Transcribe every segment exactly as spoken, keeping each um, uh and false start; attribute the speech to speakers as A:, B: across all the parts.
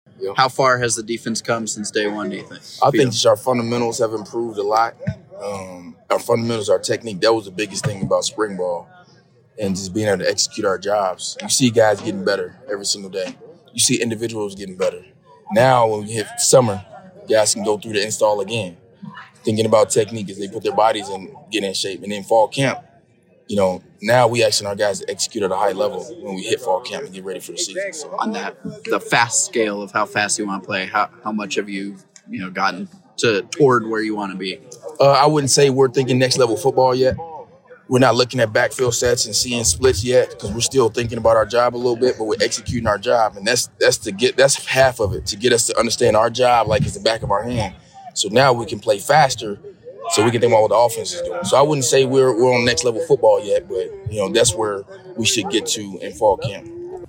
A: Yep.
B: How far has the defense come since day one, do you think?
A: I think just our fundamentals have improved a lot. Um, our fundamentals, our technique, that was the biggest thing about spring ball and just being able to execute our jobs. You see guys getting better every single day. You see individuals getting better. Now when we hit summer, guys can go through the install again, thinking about technique as they put their bodies in, get in shape. And then fall camp, you know, now we asking our guys to execute at a high level when we hit fall camp and get ready for the season. So,
B: on that, the fast scale of how fast you want to play, how how much have you, you know, gotten to toward where you want to be?
A: Uh, I wouldn't say we're thinking next level football yet. We're not looking at backfield sets and seeing splits yet because we're still thinking about our job a little bit, but we're executing our job, and that's that's to get that's half of it to get us to understand our job like it's the back of our hand. So now we can play faster, so we can think about what the offense is doing. So I wouldn't say we're we're on next level football yet, but you know that's where we should get to in fall camp.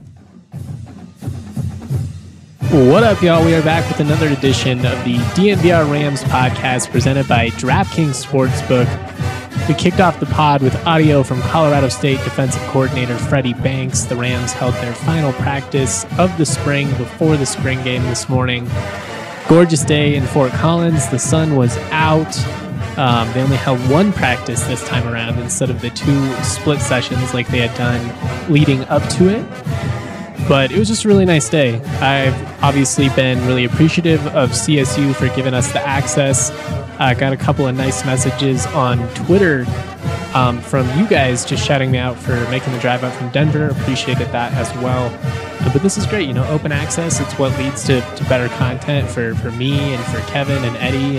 C: What up, y'all? We are back with another edition of the D N V R Rams podcast presented by DraftKings Sportsbook. We kicked off the pod with audio from Colorado State defensive coordinator Freddie Banks. The Rams held their final practice of the spring before the spring game this morning. Gorgeous day in Fort Collins. The sun was out. Um, they only held one practice this time around instead of the two split sessions like they had done leading up to it. But it was just a really nice day. I've obviously been really appreciative of C S U for giving us the access. I uh, got a couple of nice messages on Twitter um, from you guys just shouting me out for making the drive up from Denver. Appreciated that as well. Uh, but this is great, you know, open access. It's what leads to, to better content for, for me and for Kevin and Eddie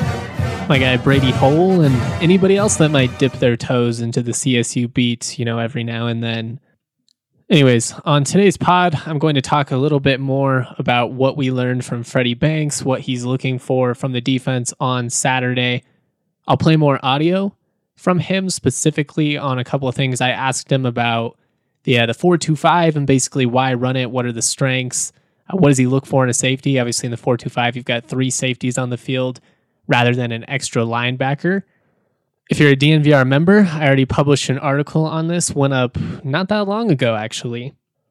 C: and my guy Brady Hole and anybody else that might dip their toes into the C S U beat, you know, every now and then. Anyways, on today's pod, I'm going to talk a little bit more about what we learned from Freddie Banks, what he's looking for from the defense on Saturday. I'll play more audio from him, specifically on a couple of things I asked him about the uh, the four two five and basically why run it, what are the strengths, uh, what does he look for in a safety? Obviously in the four two five, you've got three safeties on the field rather than an extra linebacker. If you're a D N V R member, I already published an article on this, went up not that long ago, actually.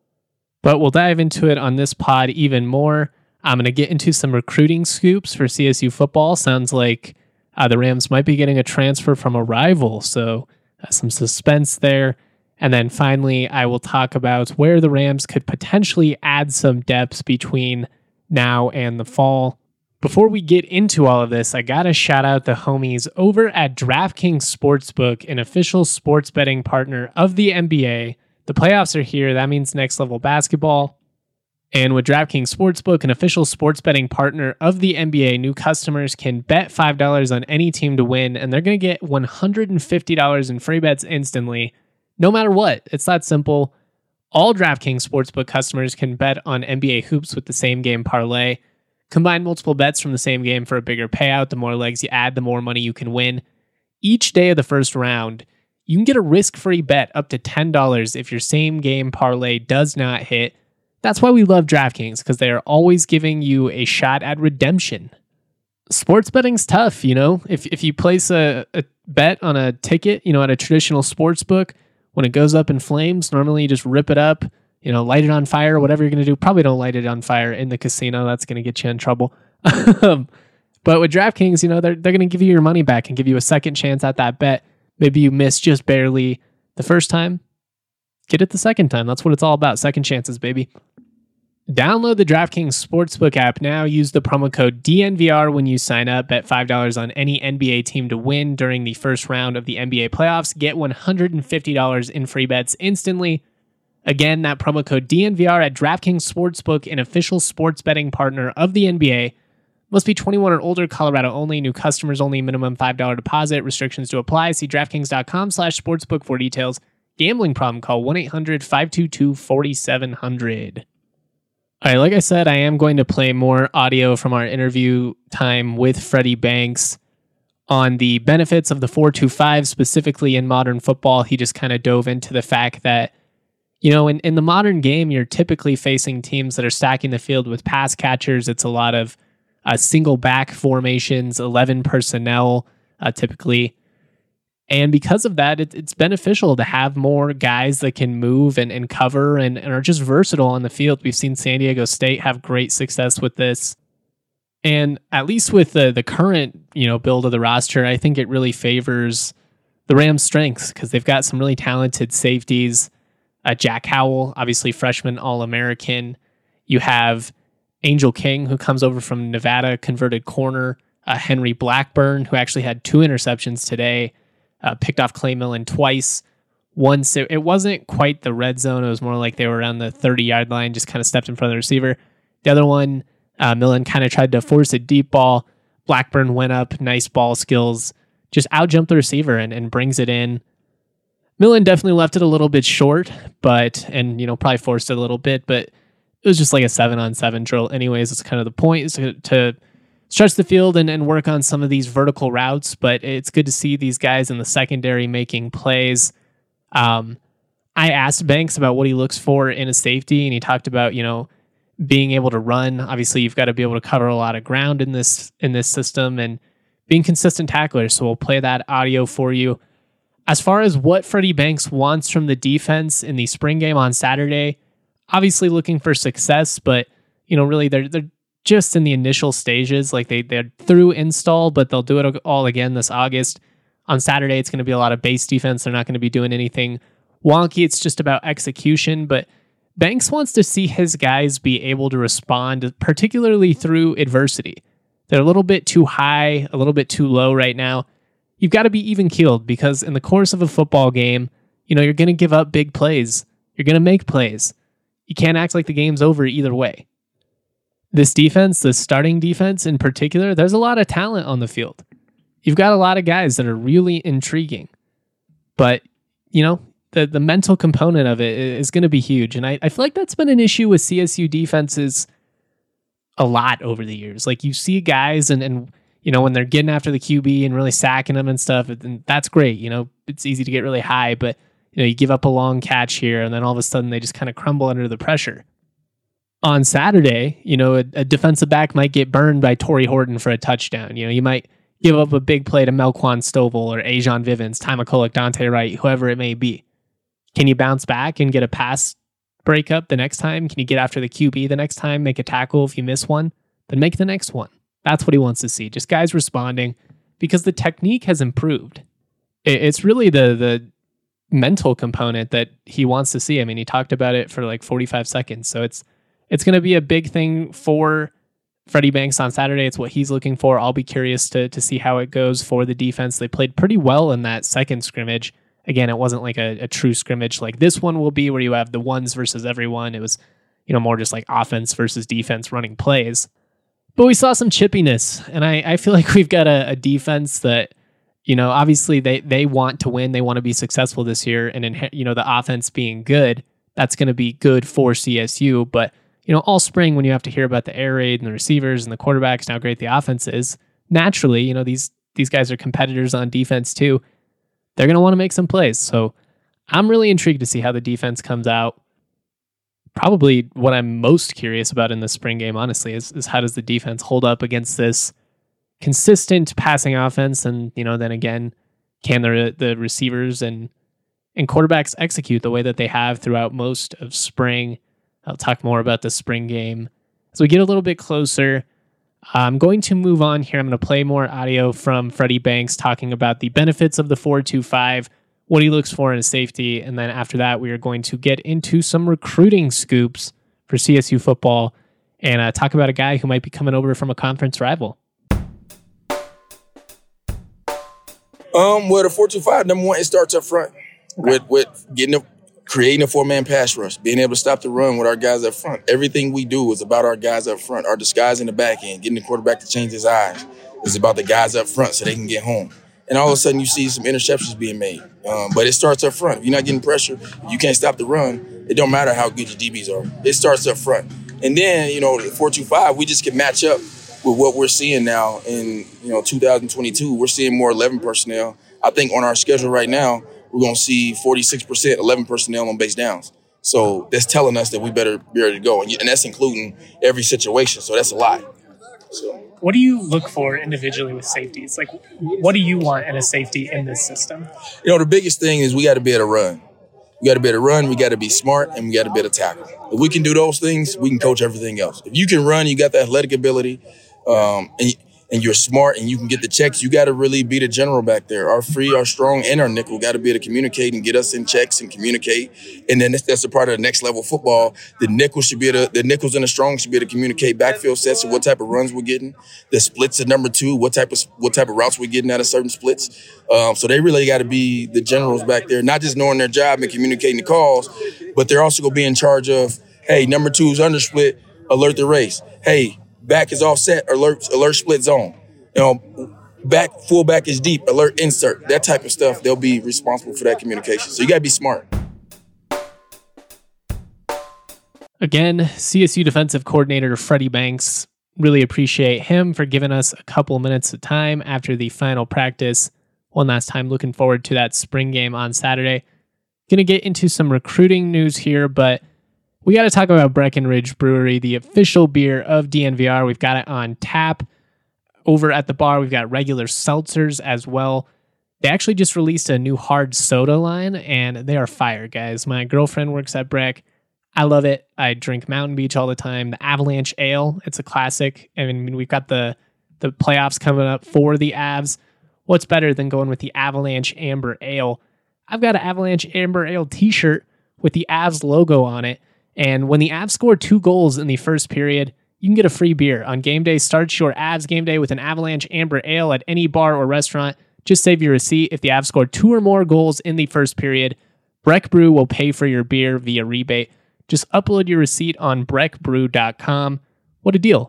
C: But we'll dive into it on this pod even more. I'm going to get into some recruiting scoops for C S U football. Sounds like uh, the Rams might be getting a transfer from a rival, so uh, some suspense there. And then finally, I will talk about where the Rams could potentially add some depth between now and the fall. Before we get into all of this, I gotta shout out the homies over at DraftKings Sportsbook, an official sports betting partner of the N B A. The playoffs are here. That means next level basketball. And with DraftKings Sportsbook, an official sports betting partner of the N B A, new customers can bet five dollars on any team to win, and they're going to get one hundred fifty dollars in free bets instantly, no matter what. It's that simple. All DraftKings Sportsbook customers can bet on N B A hoops with the same game parlay. Combine multiple bets from the same game for a bigger payout. The more legs you add, the more money you can win. Each day of the first round, you can get a risk-free bet up to ten dollars if your same game parlay does not hit. That's why we love DraftKings, because they are always giving you a shot at redemption. Sports betting's tough, you know? If if you place a, a bet on a ticket, you know, at a traditional sports book, when it goes up in flames, normally you just rip it up, you know, light it on fire, whatever you're going to do. Probably don't light it on fire in the casino. That's going to get you in trouble. But with DraftKings, you know, they're, they're going to give you your money back and give you a second chance at that bet. Maybe you missed just barely the first time. Get it the second time. That's what it's all about. Second chances, baby. Download the DraftKings Sportsbook app now. Use the promo code D N V R when you sign up. Bet five dollars on any N B A team to win during the first round of the N B A playoffs. Get one hundred fifty dollars in free bets instantly. Again, that promo code D N V R at DraftKings Sportsbook, an official sports betting partner of the N B A. Must be twenty-one or older, Colorado only, new customers only, minimum five dollars deposit, restrictions to apply. See DraftKings.com slash sportsbook for details. Gambling problem, call one eight hundred five two two four seven zero zero. All right, like I said, I am going to play more audio from our interview time with Freddie Banks on the benefits of the four two five, specifically in modern football. He just kind of dove into the fact that, you know, in, in the modern game, you're typically facing teams that are stacking the field with pass catchers. It's a lot of uh, single back formations, eleven personnel, uh, typically. And because of that, it, it's beneficial to have more guys that can move and, and cover and, and are just versatile on the field. We've seen San Diego State have great success with this. And at least with the the current, you know, build of the roster, I think it really favors the Rams' strengths because they've got some really talented safeties. Uh, Jack Howell, obviously freshman All-American. You have Angel King, who comes over from Nevada, converted corner. Uh, Henry Blackburn, who actually had two interceptions today. Uh, picked off Clay Millen twice. One, so it wasn't quite the red zone. It was more like they were around the thirty-yard line, just kind of stepped in front of the receiver. The other one, uh, Millen kind of tried to force a deep ball. Blackburn went up, nice ball skills, just out-jumped the receiver and, and brings it in. Millen definitely left it a little bit short, but, and, you know, probably forced it a little bit, but it was just like a seven-on-seven drill. Anyways, it's kind of the point, is to, to stretch the field and, and work on some of these vertical routes, but it's good to see these guys in the secondary making plays. Um, I asked Banks about what he looks for in a safety, and he talked about, you know, being able to run. Obviously, you've got to be able to cover a lot of ground in this in this system and being consistent tacklers. So we'll play that audio for you. As far as what Freddie Banks wants from the defense in the spring game on Saturday, obviously looking for success, but, you know, really they're they're just in the initial stages. Like they, they're through install, but they'll do it all again this August. On Saturday, it's going to be a lot of base defense. They're not going to be doing anything wonky. It's just about execution. But Banks wants to see his guys be able to respond, particularly through adversity. They're a little bit too high, a little bit too low right now. You've got to be even keeled because in the course of a football game, you know, you're going to give up big plays. You're going to make plays. You can't act like the game's over either way. This defense, the starting defense in particular, there's a lot of talent on the field. You've got a lot of guys that are really intriguing. But, you know, the, the mental component of it is going to be huge. And I, I feel like that's been an issue with C S U defenses a lot over the years. Like you see guys and, and you know, when they're getting after the Q B and really sacking them and stuff, and that's great. You know, it's easy to get really high, but, you know, you give up a long catch here and then all of a sudden they just kind of crumble under the pressure. On Saturday, you know, a, a defensive back might get burned by Torrey Horton for a touchdown. You know, you might give up a big play to Melquan Stovall or Ajon Vivens, Ty McCulloch, Dante Wright, whoever it may be. Can you bounce back and get a pass breakup the next time? Can you get after the Q B the next time, make a tackle if you miss one? Then make the next one. That's what he wants to see. Just guys responding because the technique has improved. It's really the the mental component that he wants to see. I mean, he talked about it for like forty-five seconds. So it's it's going to be a big thing for Freddie Banks on Saturday. It's what he's looking for. I'll be curious to to see how it goes for the defense. They played pretty well in that second scrimmage. Again, it wasn't like a, a true scrimmage like this one will be where you have the ones versus everyone. It was, you know, more just like offense versus defense running plays. But we saw some chippiness, and I, I feel like we've got a, a defense that, you know, obviously they, they want to win. They want to be successful this year. And, in, you know, the offense being good, that's going to be good for C S U. But, you know, all spring when you have to hear about the air raid and the receivers and the quarterbacks and how great the offense is, naturally, you know, these these guys are competitors on defense too. They're going to want to make some plays. So I'm really intrigued to see how the defense comes out. Probably what I'm most curious about in the spring game, honestly, is, is how does the defense hold up against this consistent passing offense? And, you know, then again, can the the receivers and and quarterbacks execute the way that they have throughout most of spring? I'll talk more about the spring game as we get a little bit closer. I'm going to move on here. I'm going to play more audio from Freddie Banks talking about the benefits of the four two five, what he looks for in a safety, and then after that, we are going to get into some recruiting scoops for C S U football and uh, talk about a guy who might be coming over from a conference rival.
A: Um, well, the four two five, number one, it starts up front with with getting a, creating a four-man pass rush, being able to stop the run with our guys up front. Everything we do is about our guys up front. Our disguise in the back end, getting the quarterback to change his eyes, is about the guys up front so they can get home. And all of a sudden, you see some interceptions being made. Um, but it starts up front. If you're not getting pressure, you can't stop the run. It don't matter how good your D Bs are. It starts up front. And then, you know, the four two five, we just can match up with what we're seeing now in, you know, two thousand twenty-two. We're seeing more eleven personnel. I think on our schedule right now, we're going to see forty-six percent eleven personnel on base downs. So that's telling us that we better be ready to go. And, and that's including every situation. So that's a lot. So,
C: what do you look for individually with safeties? Like, what do you want in a safety in this system?
A: You know, the biggest thing is we got to be able to run. We got to be able to run, we got to be smart, and we got to be able to tackle. If we can do those things, we can coach everything else. If you can run, you got the athletic ability, um, and, and you're smart, and you can get the checks, you got to really be the general back there. Our free, our strong, and our nickel got to be able to communicate and get us in checks and communicate. And then that's, that's a part of the next level of football. The nickel should be able to, the nickels and the strong should be able to communicate backfield sets of what type of runs we're getting. The splits at number two, what type of what type of routes we're getting out of certain splits. Um, so they really got to be the generals back there, not just knowing their job and communicating the calls, but they're also going to be in charge of, hey, number two is under split, alert the race. Hey, back is offset, alert, alert split zone. You know, back, fullback is deep, alert insert, that type of stuff. They'll be responsible for that communication. So you got to be smart.
C: Again, C S U defensive coordinator Freddie Banks. Really appreciate him for giving us a couple minutes of time after the final practice. One last time, looking forward to that spring game on Saturday. Going to get into some recruiting news here, but we got to talk about Breckenridge Brewery, the official beer of D N V R. We've got it on tap. Over at the bar, we've got regular seltzers as well. They actually just released a new hard soda line, and they are fire, guys. My girlfriend works at Breck. I love it. I drink Mountain Beach all the time. The Avalanche Ale, it's a classic. I mean, we've got the, the playoffs coming up for the Avs. What's better than going with the Avalanche Amber Ale? I've got an Avalanche Amber Ale t-shirt with the Avs logo on it. And when the Avs score two goals in the first period, you can get a free beer. On game day, start your Avs game day with an Avalanche Amber Ale at any bar or restaurant. Just save your receipt. If the Avs score two or more goals in the first period, Breck Brew will pay for your beer via rebate. Just upload your receipt on breck brew dot com. What a deal.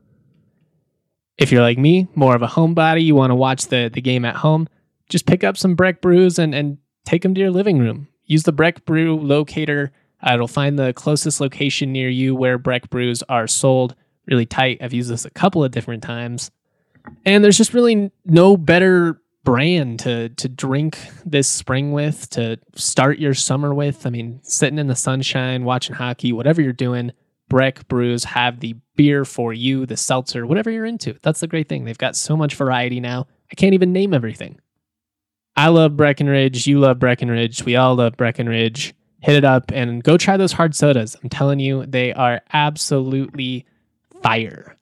C: If you're like me, more of a homebody, you want to watch the, the game at home, just pick up some Breck Brews and, and take them to your living room. Use the Breck Brew locator. Uh, it'll find the closest location near you where Breck Brews are sold. Really tight. I've used this a couple of different times. And there's just really no better brand to to drink this spring with, to start your summer with. I mean, sitting in the sunshine, watching hockey, whatever you're doing, Breck Brews have the beer for you, the seltzer, whatever you're into. That's the great thing. They've got so much variety now. I can't even name everything. I love Breckenridge. You love Breckenridge. We all love Breckenridge. Hit it up and go try those hard sodas. I'm telling you, they are absolutely fire.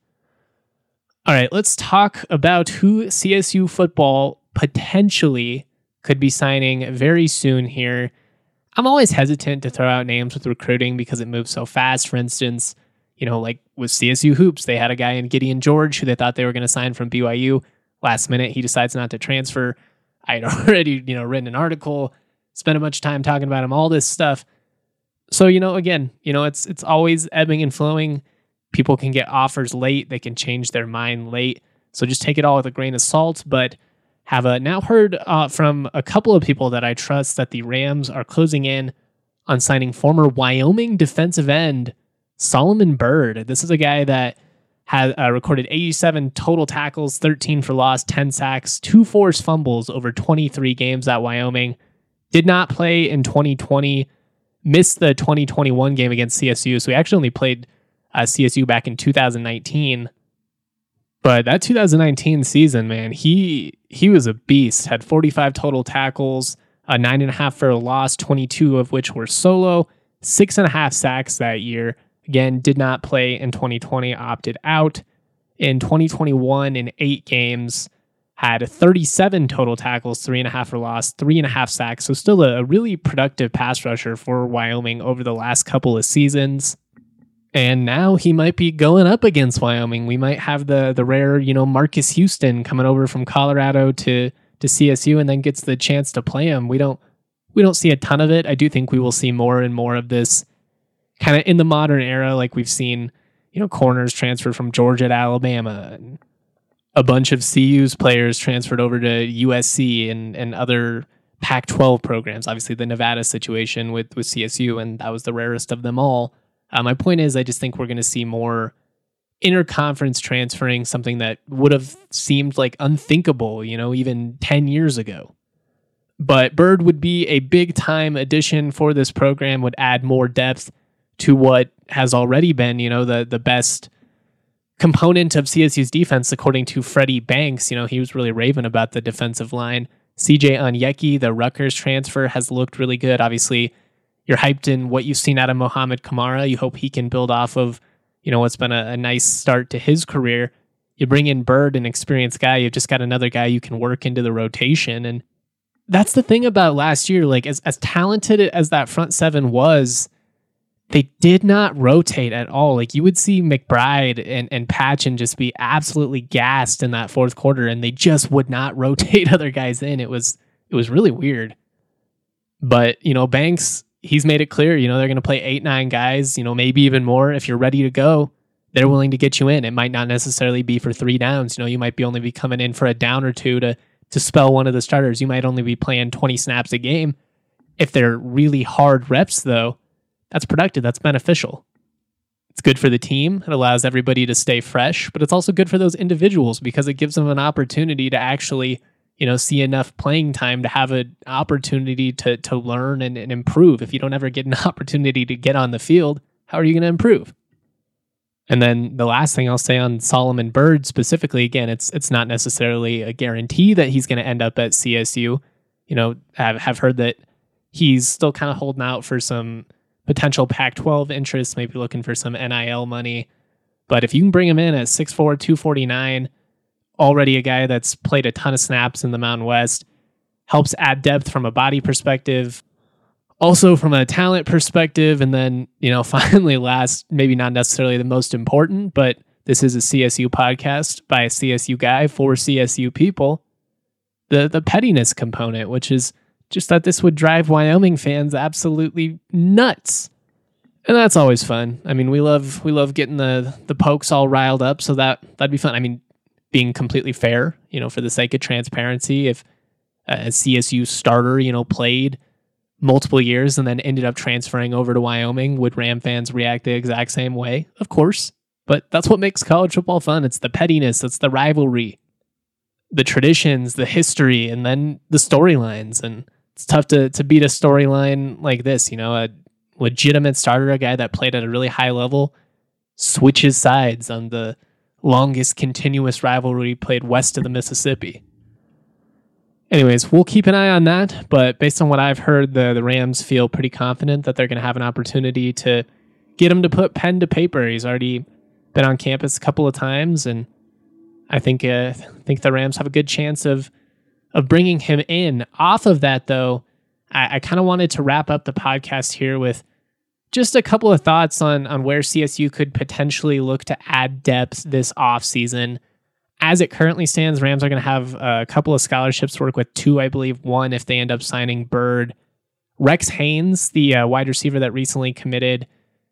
C: All right, let's talk about who C S U football potentially could be signing very soon here. I'm always hesitant to throw out names with recruiting because it moves so fast. For instance, you know, like with C S U Hoops, they had a guy in Gideon George who they thought they were going to sign from B Y U. Last minute, he decides not to transfer. I had already, you know, written an article, spent a bunch of time talking about him, all this stuff. So, you know, again, you know, it's it's always ebbing and flowing. People can get offers late. They can change their mind late. So just take it all with a grain of salt. But have uh, now heard uh, from a couple of people that I trust that the Rams are closing in on signing former Wyoming defensive end Solomon Byrd. This is a guy that had uh, recorded eighty-seven total tackles, thirteen for loss, ten sacks, two forced fumbles over twenty-three games at Wyoming. Did not play in twenty twenty, missed the twenty twenty-one game against C S U. So he actually only played uh, C S U back in two thousand nineteen. But that two thousand nineteen season, man, he he was a beast. Had forty-five total tackles, uh, nine and a half for a loss, twenty-two of which were solo, six and a half sacks that year. Again, did not play in twenty twenty, opted out. In twenty twenty-one, in eight games, had thirty-seven total tackles, three and a half for loss, three and a half sacks. So still a, a really productive pass rusher for Wyoming over the last couple of seasons. And now he might be going up against Wyoming. We might have the the rare, you know, Marcus Houston coming over from Colorado to to C S U and then gets the chance to play him. We don't we don't see a ton of it. I do think we will see more and more of this kind of in the modern era, like we've seen, you know, corners transferred from Georgia to Alabama, and a bunch of C U's players transferred over to U S C and and other Pac twelve programs. Obviously, the Nevada situation with with C S U, and that was the rarest of them all. Uh, my point is, I just think we're going to see more interconference transferring, something that would have seemed like unthinkable, you know, even ten years ago. But Byrd would be a big time addition for this program, would add more depth to what has already been, you know, the the best component of C S U's defense, according to Freddie Banks. You know, he was really raving about the defensive line. C J Onyeki, the Rutgers transfer, has looked really good. Obviously, you're hyped in what you've seen out of Mohamed Kamara. You hope he can build off of, you know, what's been a, a nice start to his career. You bring in Bird, an experienced guy. You've just got another guy you can work into the rotation. And that's the thing about last year. Like, as, as talented as that front seven was, they did not rotate at all. Like, you would see McBride and, and Patchen just be absolutely gassed in that fourth quarter, and they just would not rotate other guys in. It was it was really weird. But, you know, Banks, he's made it clear, you know, they're going to play eight, nine guys, you know, maybe even more. If you're ready to go, they're willing to get you in. It might not necessarily be for three downs. You know, you might be only be coming in for a down or two to to spell one of the starters. You might only be playing twenty snaps a game. If they're really hard reps, though, that's productive. That's beneficial. It's good for the team. It allows everybody to stay fresh, but it's also good for those individuals because it gives them an opportunity to actually, you know, see enough playing time to have an opportunity to to learn and, and improve. If you don't ever get an opportunity to get on the field, how are you going to improve? And then the last thing I'll say on Solomon Bird specifically, again, it's it's not necessarily a guarantee that he's going to end up at C S U. You know, have have heard that he's still kind of holding out for some potential Pac twelve interest, maybe looking for some N I L money. But if you can bring him in at six four, two forty-nine, already a guy that's played a ton of snaps in the Mountain West, helps add depth from a body perspective, also from a talent perspective. And then, you know, finally last, maybe not necessarily the most important, but this is a C S U podcast by a C S U guy for C S U people, the the pettiness component, which is just that this would drive Wyoming fans absolutely nuts. And that's always fun. I mean, we love we love getting the the Pokes all riled up, so that that'd be fun. I mean, being completely fair, you know, for the sake of transparency, if a C S U starter, you know, played multiple years and then ended up transferring over to Wyoming, would Ram fans react the exact same way? Of course. But that's what makes college football fun. It's the pettiness, it's the rivalry, the traditions, the history, and then the storylines. And it's tough to to beat a storyline like this, you know, a legitimate starter, a guy that played at a really high level, switches sides on the longest continuous rivalry played west of the Mississippi. Anyways, we'll keep an eye on that, but based on what I've heard, the, the Rams feel pretty confident that they're going to have an opportunity to get him to put pen to paper. He's already been on campus a couple of times, and I think uh, I think the Rams have a good chance of of bringing him in. Off of that, though, I, I kind of wanted to wrap up the podcast here with just a couple of thoughts on, on where C S U could potentially look to add depth this offseason. As it currently stands, Rams are going to have a couple of scholarships to work with, two, I believe, one if they end up signing Bird. Rex Haynes, the uh, wide receiver that recently committed,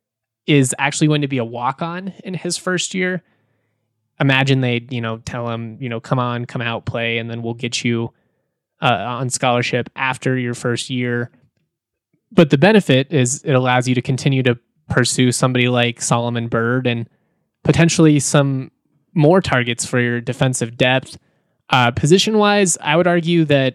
C: is actually going to be a walk-on in his first year. Imagine they, you know, tell him, you know, come on, come out, play, and then we'll get you uh, on scholarship after your first year. But the benefit is it allows you to continue to pursue somebody like Solomon Bird and potentially some more targets for your defensive depth. Uh, position-wise, I would argue that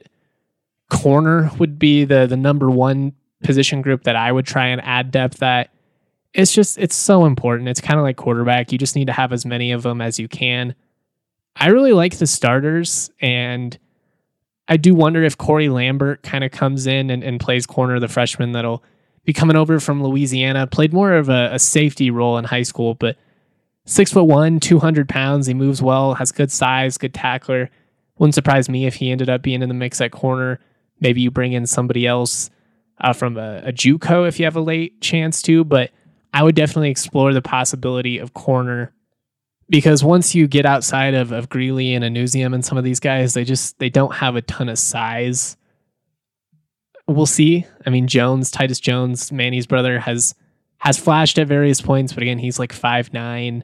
C: corner would be the the number one position group that I would try and add depth at. It's just, it's so important. It's kind of like quarterback. You just need to have as many of them as you can. I really like the starters, and I do wonder if Corey Lambert kind of comes in and, and plays corner, the freshman that'll be coming over from Louisiana. Played more of a, a safety role in high school, but six foot one, two hundred pounds. He moves well, has good size, good tackler. Wouldn't surprise me if he ended up being in the mix at corner. Maybe you bring in somebody else uh, from a, a JUCO if you have a late chance to, but I would definitely explore the possibility of corner, because once you get outside of, of Greeley and Anusium and some of these guys, they just, they don't have a ton of size. We'll see. I mean, Jones, Titus Jones, Manny's brother, has has flashed at various points, but again, he's like five nine.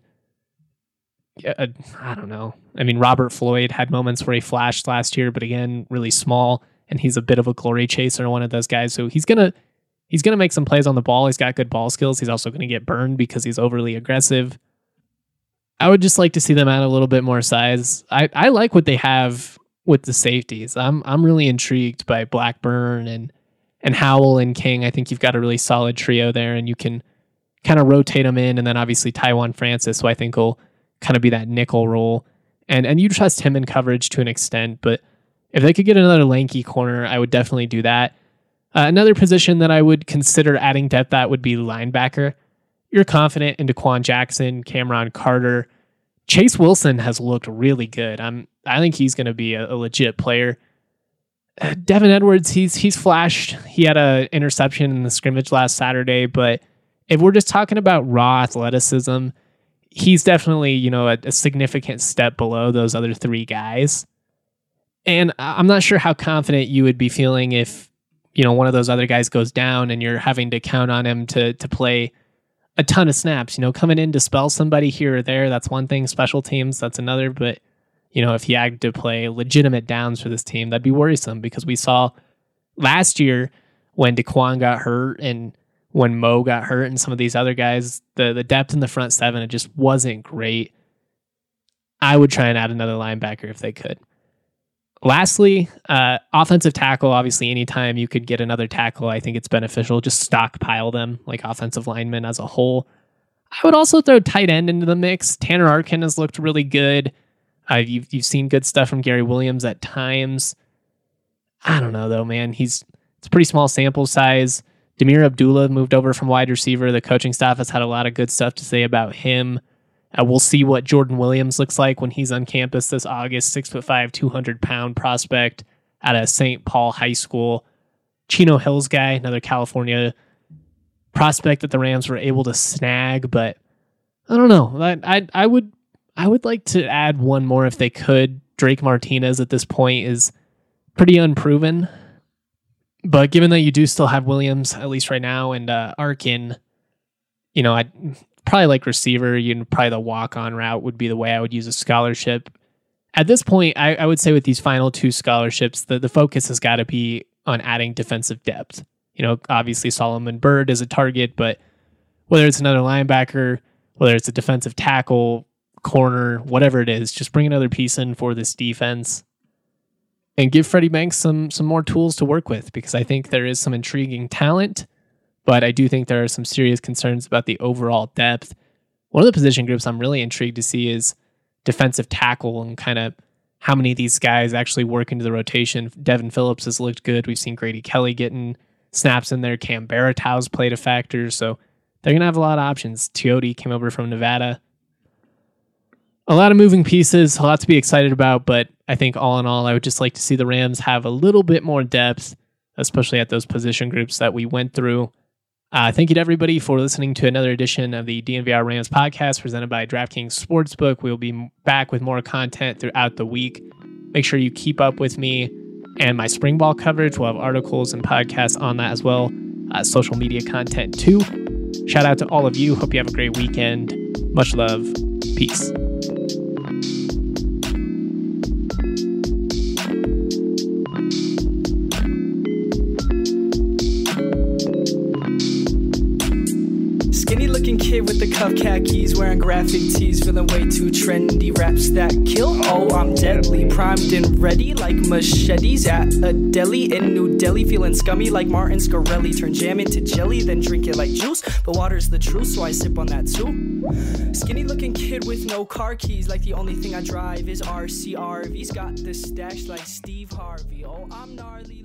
C: Uh, I don't know. I mean, Robert Floyd had moments where he flashed last year, but again, really small, and he's a bit of a glory chaser, one of those guys. So he's going to, He's going to make some plays on the ball. He's got good ball skills. He's also going to get burned because he's overly aggressive. I would just like to see them add a little bit more size. I, I like what they have with the safeties. I'm I'm really intrigued by Blackburn and and Howell and King. I think you've got a really solid trio there, and you can kind of rotate them in. And then obviously Taiwan Francis, who I think will kind of be that nickel role. And and you trust him in coverage to an extent, but if they could get another lanky corner, I would definitely do that. Uh, another position that I would consider adding depth at would be linebacker. You're confident in Daquan Jackson, Cameron Carter. Chase Wilson has looked really good. I'm I think he's going to be a, a legit player. Uh, Devin Edwards, he's he's flashed. He had an interception in the scrimmage last Saturday, but if we're just talking about raw athleticism, he's definitely, you know, a, a significant step below those other three guys. And I'm not sure how confident you would be feeling if, you know, one of those other guys goes down and you're having to count on him to to play a ton of snaps. You know, coming in to spell somebody here or there, that's one thing. Special teams, that's another. But, you know, if he had to play legitimate downs for this team, that'd be worrisome, because we saw last year when Daquan got hurt and when Mo got hurt and some of these other guys, the, the depth in the front seven, it just wasn't great. I would try and add another linebacker if they could. Lastly, uh, offensive tackle. Obviously, anytime you could get another tackle, I think it's beneficial. Just stockpile them, like offensive linemen as a whole. I would also throw tight end into the mix. Tanner Arkin has looked really good. Uh, you've, you've seen good stuff from Gary Williams at times. I don't know, though, man. He's It's a pretty small sample size. Demir Abdullah moved over from wide receiver. The coaching staff has had a lot of good stuff to say about him. Uh, we'll see what Jordan Williams looks like when he's on campus this August. Six foot five, two hundred pound prospect out of Saint Paul High School. Chino Hills guy, another California prospect that the Rams were able to snag, but I don't know. I I, I would I would like to add one more if they could. Drake Martinez at this point is pretty unproven, but given that you do still have Williams, at least right now, and uh, Arkin, you know, I'd probably like receiver. You know, probably the walk-on route would be the way I would use a scholarship. At this point, I, I would say with these final two scholarships, the, the focus has got to be on adding defensive depth. You know, obviously Solomon Byrd is a target, but whether it's another linebacker, whether it's a defensive tackle, corner, whatever it is, just bring another piece in for this defense and give Freddie Banks some some more tools to work with, because I think there is some intriguing talent, but I do think there are some serious concerns about the overall depth. One of the position groups I'm really intrigued to see is defensive tackle, and kind of how many of these guys actually work into the rotation. Devin Phillips has looked good. We've seen Grady Kelly getting snaps in there. Cam Baratow's played a factor, so they're going to have a lot of options. Teote came over from Nevada. A lot of moving pieces, a lot to be excited about, but I think all in all, I would just like to see the Rams have a little bit more depth, especially at those position groups that we went through. Uh, thank you to everybody for listening to another edition of the D N V R Rams podcast presented by DraftKings Sportsbook. We'll be back with more content throughout the week. Make sure you keep up with me and my spring ball coverage. We'll have articles and podcasts on that as well. Uh, social media content too. Shout out to all of you. Hope you have a great weekend. Much love. Peace.
D: Kid with the cuff khakis, wearing graphic tees, feeling way too trendy. Raps that kill, oh I'm deadly, primed and ready like machetes at a deli in New Delhi. Feeling scummy like Martin Scarelli, turn jam into jelly, then drink it like juice. But water's the truth, so I sip on that too. Skinny looking kid with no car keys, like the only thing I drive is R C R V's. Got the stash like Steve Harvey, oh I'm gnarly.